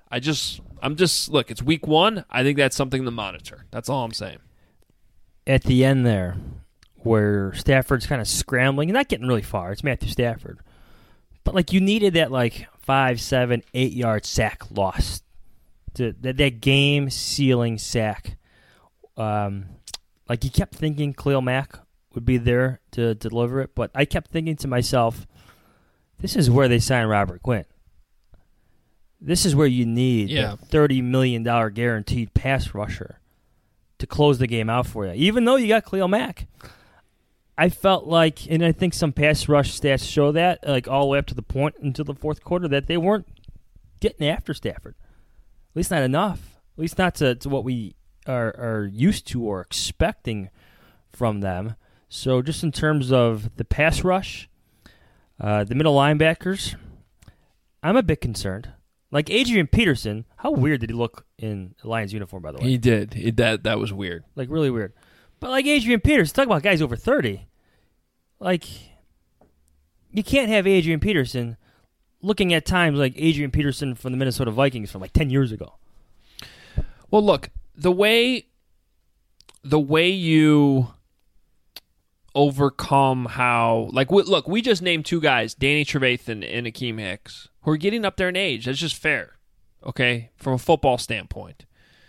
I just, I'm just, look, it's week one. I think that's something to monitor. That's all I'm saying. At the end there, where Stafford's kind of scrambling, not getting really far. It's Matthew Stafford. But, like, you needed that, like, five, seven, eight-yard sack loss. To, that, that game-sealing sack. Um, like, you kept thinking Khalil Mack would be there to, to deliver it, but I kept thinking to myself, this is where they signed Robert Quinn. This is where you need yeah. the thirty million dollars guaranteed pass rusher to close the game out for you. Even though you got Khalil Mack, I felt like, and I think some pass rush stats show that, like all the way up to the point into the fourth quarter, that they weren't getting after Stafford. At least not enough. At least not to, to what we are, are used to or expecting from them. So just in terms of the pass rush, uh, the middle linebackers, I'm a bit concerned. Like Adrian Peterson, how weird did he look in a Lions uniform, by the way? He did. He, that that was weird. Like, really weird. But like Adrian Peterson, talk about guys over thirty. Like, you can't have Adrian Peterson looking at times like Adrian Peterson from the Minnesota Vikings from like ten years ago. Well, look, the way the way you overcome how, like, we, look, we just named two guys, Danny Trevathan and Akeem Hicks, who are getting up there in age. That's just fair, okay, from a football standpoint.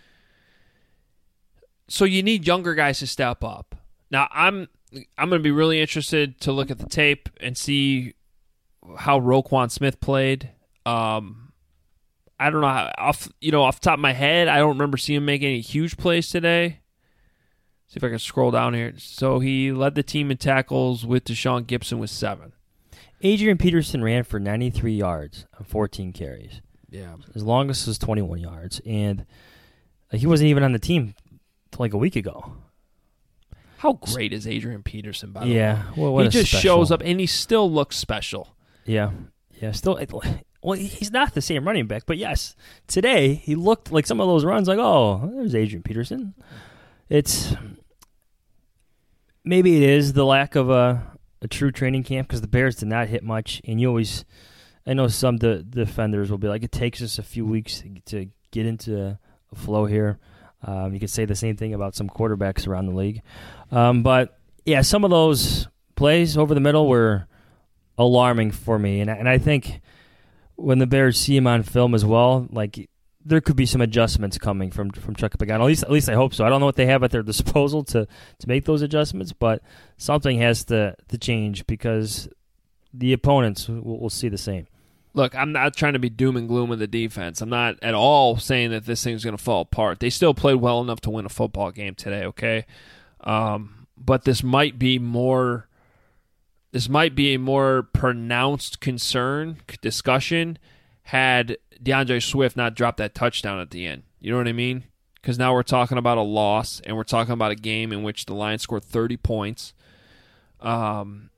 So you need younger guys to step up. Now, I'm I'm going to be really interested to look at the tape and see how Roquan Smith played. Um, I don't know how, off you know off the top of my head, I don't remember seeing him make any huge plays today. See if I can scroll down here. So he led the team in tackles with Deshaun Gibson with seven. Adrian Peterson ran for ninety-three yards on fourteen carries. Yeah. His longest was twenty-one yards, and he wasn't even on the team until like a week ago. How great is Adrian Peterson, by the yeah, way? Well, what he a just special. shows up, and he still looks special. Yeah. Yeah, still... Well, he's not the same running back, but yes, today he looked like some of those runs like, oh, there's Adrian Peterson. It's... Maybe it is the lack of a, a true training camp because the Bears did not hit much, and you always... I know some de- defenders will be like, it takes us a few weeks to, to get into a flow here. Um, you could say the same thing about some quarterbacks around the league. Um, but, yeah, some of those plays over the middle were alarming for me. And, and I think when the Bears see him on film as well, like there could be some adjustments coming from, from Chuck Pagano. At least, at least I hope so. I don't know what they have at their disposal to, to make those adjustments, but something has to, to change because the opponents will, will see the same. Look, I'm not trying to be doom and gloom with the defense. I'm not at all saying that this thing's going to fall apart. They still played well enough to win a football game today, okay? Um, but this might be more this might be a more pronounced concern, discussion, had DeAndre Swift not dropped that touchdown at the end. You know what I mean? Because now we're talking about a loss, and we're talking about a game in which the Lions scored thirty points. Um,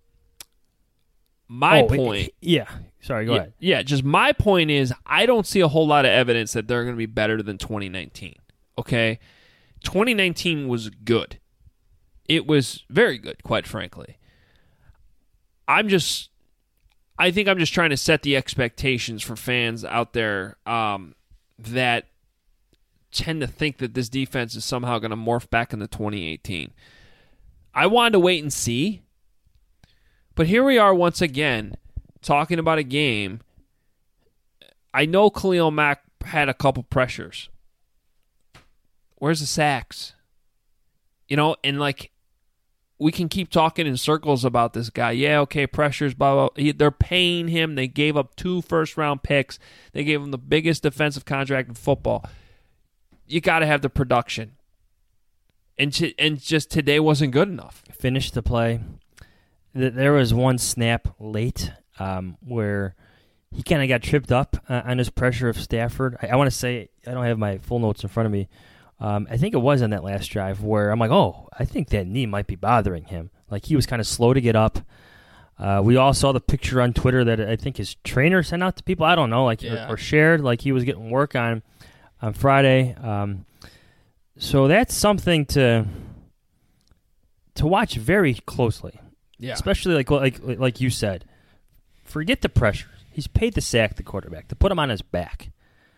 my oh, point... Yeah. Sorry, go yeah, ahead. Yeah, just my point is I don't see a whole lot of evidence that they're going to be better than twenty nineteen. Okay? twenty nineteen was good. It was very good, quite frankly. I'm just I think I'm just trying to set the expectations for fans out there um, that tend to think that this defense is somehow going to morph back into twenty eighteen. I wanted to wait and see. But here we are once again talking about a game. I know Khalil Mack had a couple pressures. Where's the sacks? You know, and like, we can keep talking in circles about this guy. Yeah, okay, pressures, blah, blah, blah. He, they're paying him. They gave up two first-round picks. They gave him the biggest defensive contract in football. You got to have the production. And, t- and just today wasn't good enough. Finished the play. There was one snap late um, where he kind of got tripped up uh, on his pressure of Stafford. I, I want to say, I don't have my full notes in front of me. Um, I think it was on that last drive where I'm like, oh, I think that knee might be bothering him. Like he was kind of slow to get up. Uh, we all saw the picture on Twitter that I think his trainer sent out to people. I don't know, like yeah. or, or shared, like he was getting work on on Friday. Um, so that's something to to watch very closely. Yeah, especially like like like you said, forget the pressure. He's paid to sack the quarterback, to put him on his back.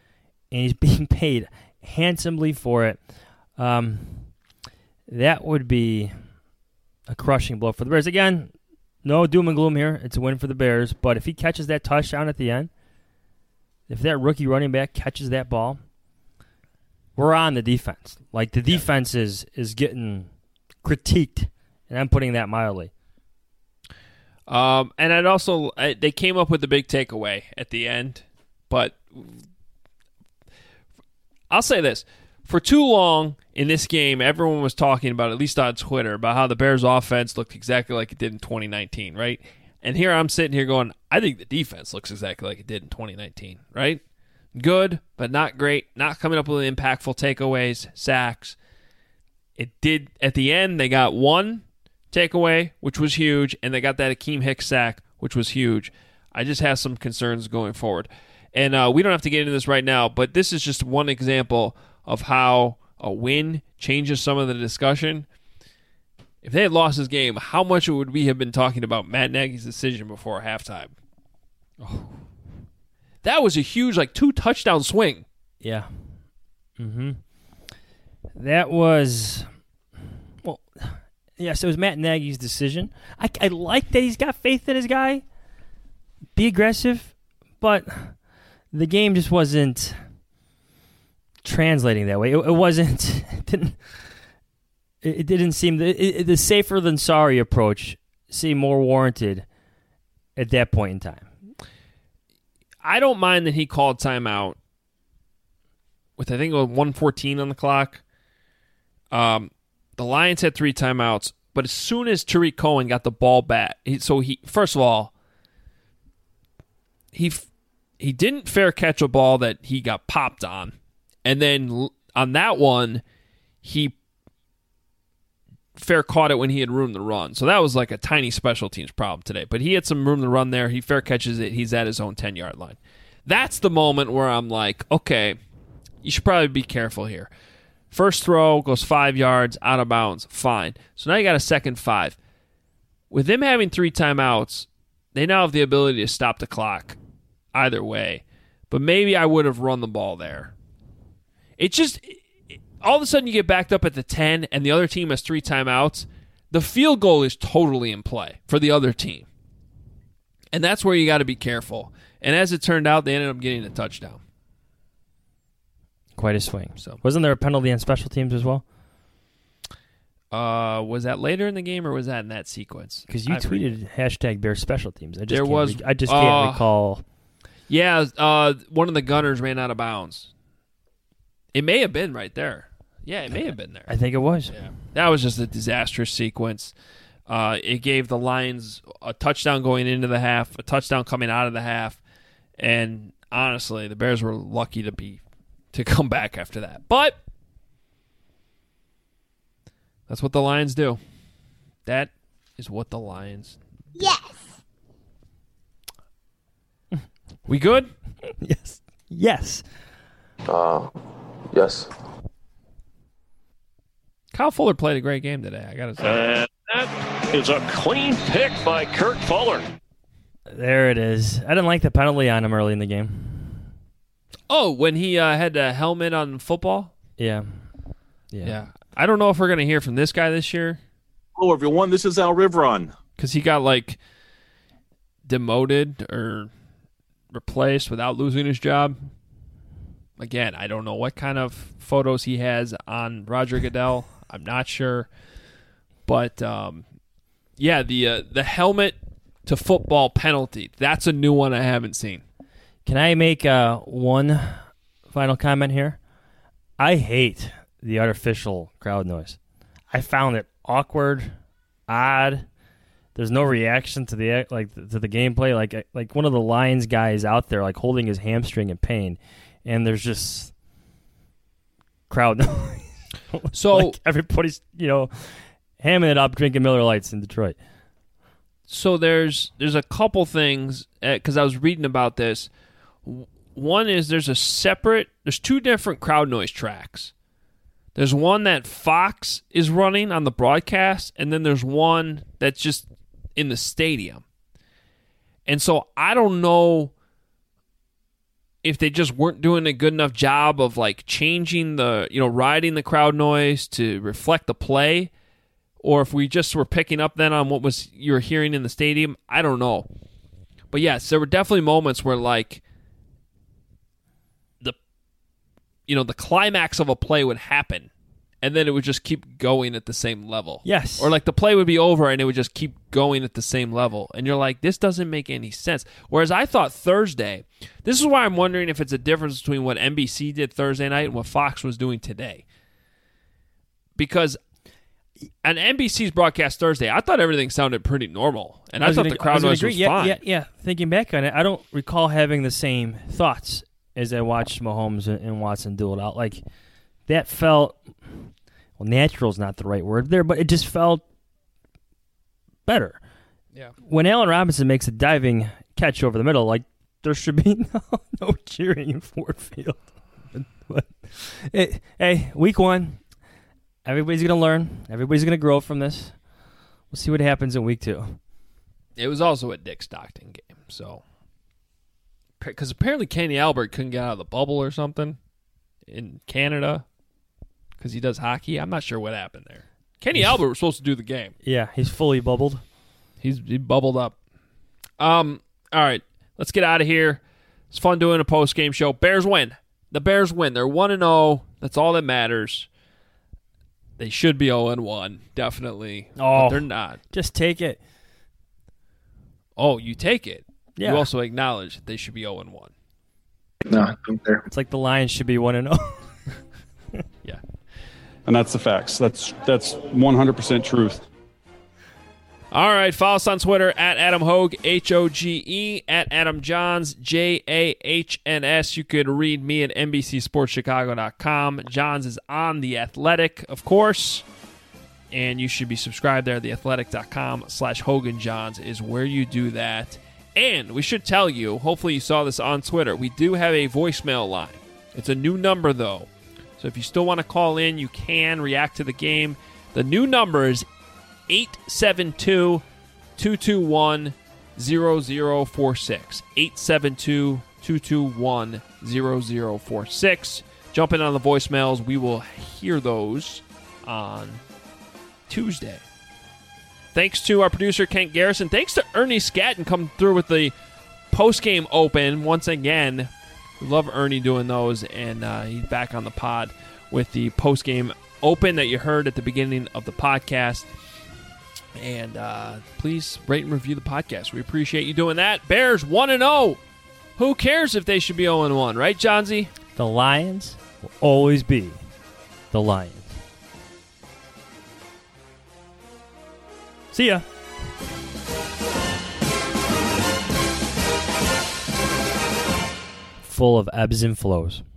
and he's being paid handsomely for it. Um, that would be a crushing blow for the Bears. Again, no doom and gloom here. It's a win for the Bears. But if he catches that touchdown at the end, if that rookie running back catches that ball, we're on the defense. Like, the defense yeah. is, is getting critiqued, and I'm putting that mildly. Um, and I'd also, I, they came up with the big takeaway at the end, but I'll say this. For too long in this game, everyone was talking about, at least on Twitter, about how the Bears' offense looked exactly like it did in twenty nineteen, right? And here I'm sitting here going, I think the defense looks exactly like it did in twenty nineteen, right? Good, but not great. Not coming up with impactful takeaways, sacks. It did, at the end, they got one takeaway, which was huge, and they got that Akeem Hicks sack, which was huge. I just have some concerns going forward. And uh, we don't have to get into this right now, but this is just one example of how a win changes some of the discussion. If they had lost this game, how much would we have been talking about Matt Nagy's decision before halftime? Oh. That was a huge, like, two-touchdown swing. Yeah. Mm-hmm. That was, well, yes, it was Matt Nagy's decision. I, I like that he's got faith in his guy. Be aggressive, but the game just wasn't translating that way. It, it wasn't. It didn't. It, it didn't seem it, it, the safer than sorry approach seemed more warranted at that point in time. I don't mind that he called timeout with I think it was one fourteen on the clock. Um, the Lions had three timeouts, but as soon as Tariq Cohen got the ball back, he, so he first of all he he didn't fair catch a ball that he got popped on. And then on that one, he fair caught it when he had room to run. So that was like a tiny special teams problem today. But he had some room to run there. He fair catches it. He's at his own ten-yard line. That's the moment where I'm like, okay, you should probably be careful here. First throw goes five yards, out of bounds, fine. So now you got a second five. With them having three timeouts, they now have the ability to stop the clock either way. But maybe I would have run the ball there. It just, all of a sudden you get backed up at the ten and the other team has three timeouts. The field goal is totally in play for the other team. And that's where you got to be careful. And as it turned out, they ended up getting a touchdown. Quite a swing. So, wasn't there a penalty on special teams as well? Uh, was that later in the game or was that in that sequence? Because you I tweeted re- hashtag Bears special teams. I just there can't was. Re- I just can't uh, recall. Yeah, uh, one of the gunners ran out of bounds. It may have been right there. Yeah, it may have been there. I think it was. Yeah. That was just a disastrous sequence. Uh, it gave the Lions a touchdown going into the half, a touchdown coming out of the half, and honestly, the Bears were lucky to be to come back after that. But that's what the Lions do. That is what the Lions do. Yes. We good? Yes. Yes. Uh, yes. Kyle Fuller played a great game today, I got to say. Uh, that is a clean pick by Kurt Fuller. There it is. I didn't like the penalty on him early in the game. Oh, when he uh, had a helmet on football? Yeah. Yeah. Yeah. I don't know if we're going to hear from this guy this year. Hello, everyone. This is Al Rivron. Because he got, like, demoted or replaced without losing his job. Again, I don't know what kind of photos he has on Roger Goodell. I'm not sure. But, um, yeah, the uh, the helmet to football penalty, that's a new one I haven't seen. Can I make uh, one final comment here? I hate the artificial crowd noise. I found it awkward, odd. There's no reaction to the like to the gameplay. Like like one of the Lions guys out there like holding his hamstring in pain, and there's just crowd noise. So like everybody's you know hamming it up, drinking Miller Lights in Detroit. So there's there's a couple things because I was reading about this. One is there's a separate, there's two different crowd noise tracks. There's one that Fox is running on the broadcast, and then there's one that's just in the stadium. And so I don't know if they just weren't doing a good enough job of like changing the, you know, riding the crowd noise to reflect the play, or if we just were picking up then on what was you were hearing in the stadium. I don't know. But yes, there were definitely moments where like the, you know, the climax of a play would happen and then it would just keep going at the same level. Yes. Or like the play would be over and it would just keep going at the same level. And you're like, this doesn't make any sense. Whereas I thought Thursday, this is why I'm wondering if it's a difference between what N B C did Thursday night and what Fox was doing today. Because on N B C's broadcast Thursday, I thought everything sounded pretty normal. And I, I thought gonna, the crowd noise was yeah, fine. Yeah, yeah. Thinking back on it, I don't recall having the same thoughts as I watched Mahomes and Watson duel it out. Like, that felt, well, natural is not the right word there, but it just felt better. Yeah. When Allen Robinson makes a diving catch over the middle, like, there should be no, no cheering in Ford Field. But, it, hey, week one, everybody's going to learn. Everybody's going to grow from this. We'll see what happens in week two. It was also a Dick Stockton game, so. Because apparently Kenny Albert couldn't get out of the bubble or something in Canada because he does hockey. I'm not sure what happened there. Kenny Albert was supposed to do the game. Yeah, he's fully bubbled. He's he bubbled up. Um. All right, let's get out of here. It's fun doing a post-game show. Bears win. The Bears win. They're one and oh. That's all that matters. They should be oh and one, definitely. Oh, but they're not. Just take it. Oh, you take it. Yeah. You also acknowledge that they should be oh and one. No, I'm there. It's like the Lions should be one and oh. Yeah. And that's the facts. That's that's one hundred percent truth. All right, follow us on Twitter at Adam Hoge, H O G E, at Adam Johns, J A H N S. You could read me at N B C Sports Chicago dot com. Johns is on The Athletic, of course, and you should be subscribed there. The Athletic dot com slash Hogan Johns is where you do that. And we should tell you, hopefully you saw this on Twitter, we do have a voicemail line. It's a new number, though. So if you still want to call in, you can react to the game. The new number is eight seven two, two two one, zero zero four six. eight seven two, two two one, zero zero four six. Jump in on the voicemails. We will hear those on Tuesday. Thanks to our producer, Kent Garrison. Thanks to Ernie Scatton coming through with the post-game open once again. We love Ernie doing those, and uh, he's back on the pod with the post-game open that you heard at the beginning of the podcast. And uh, please rate and review the podcast. We appreciate you doing that. Bears one and oh. Who cares if they should be oh and one, right, Johnsy? The Lions will always be the Lions. See ya. Full of ebbs and flows.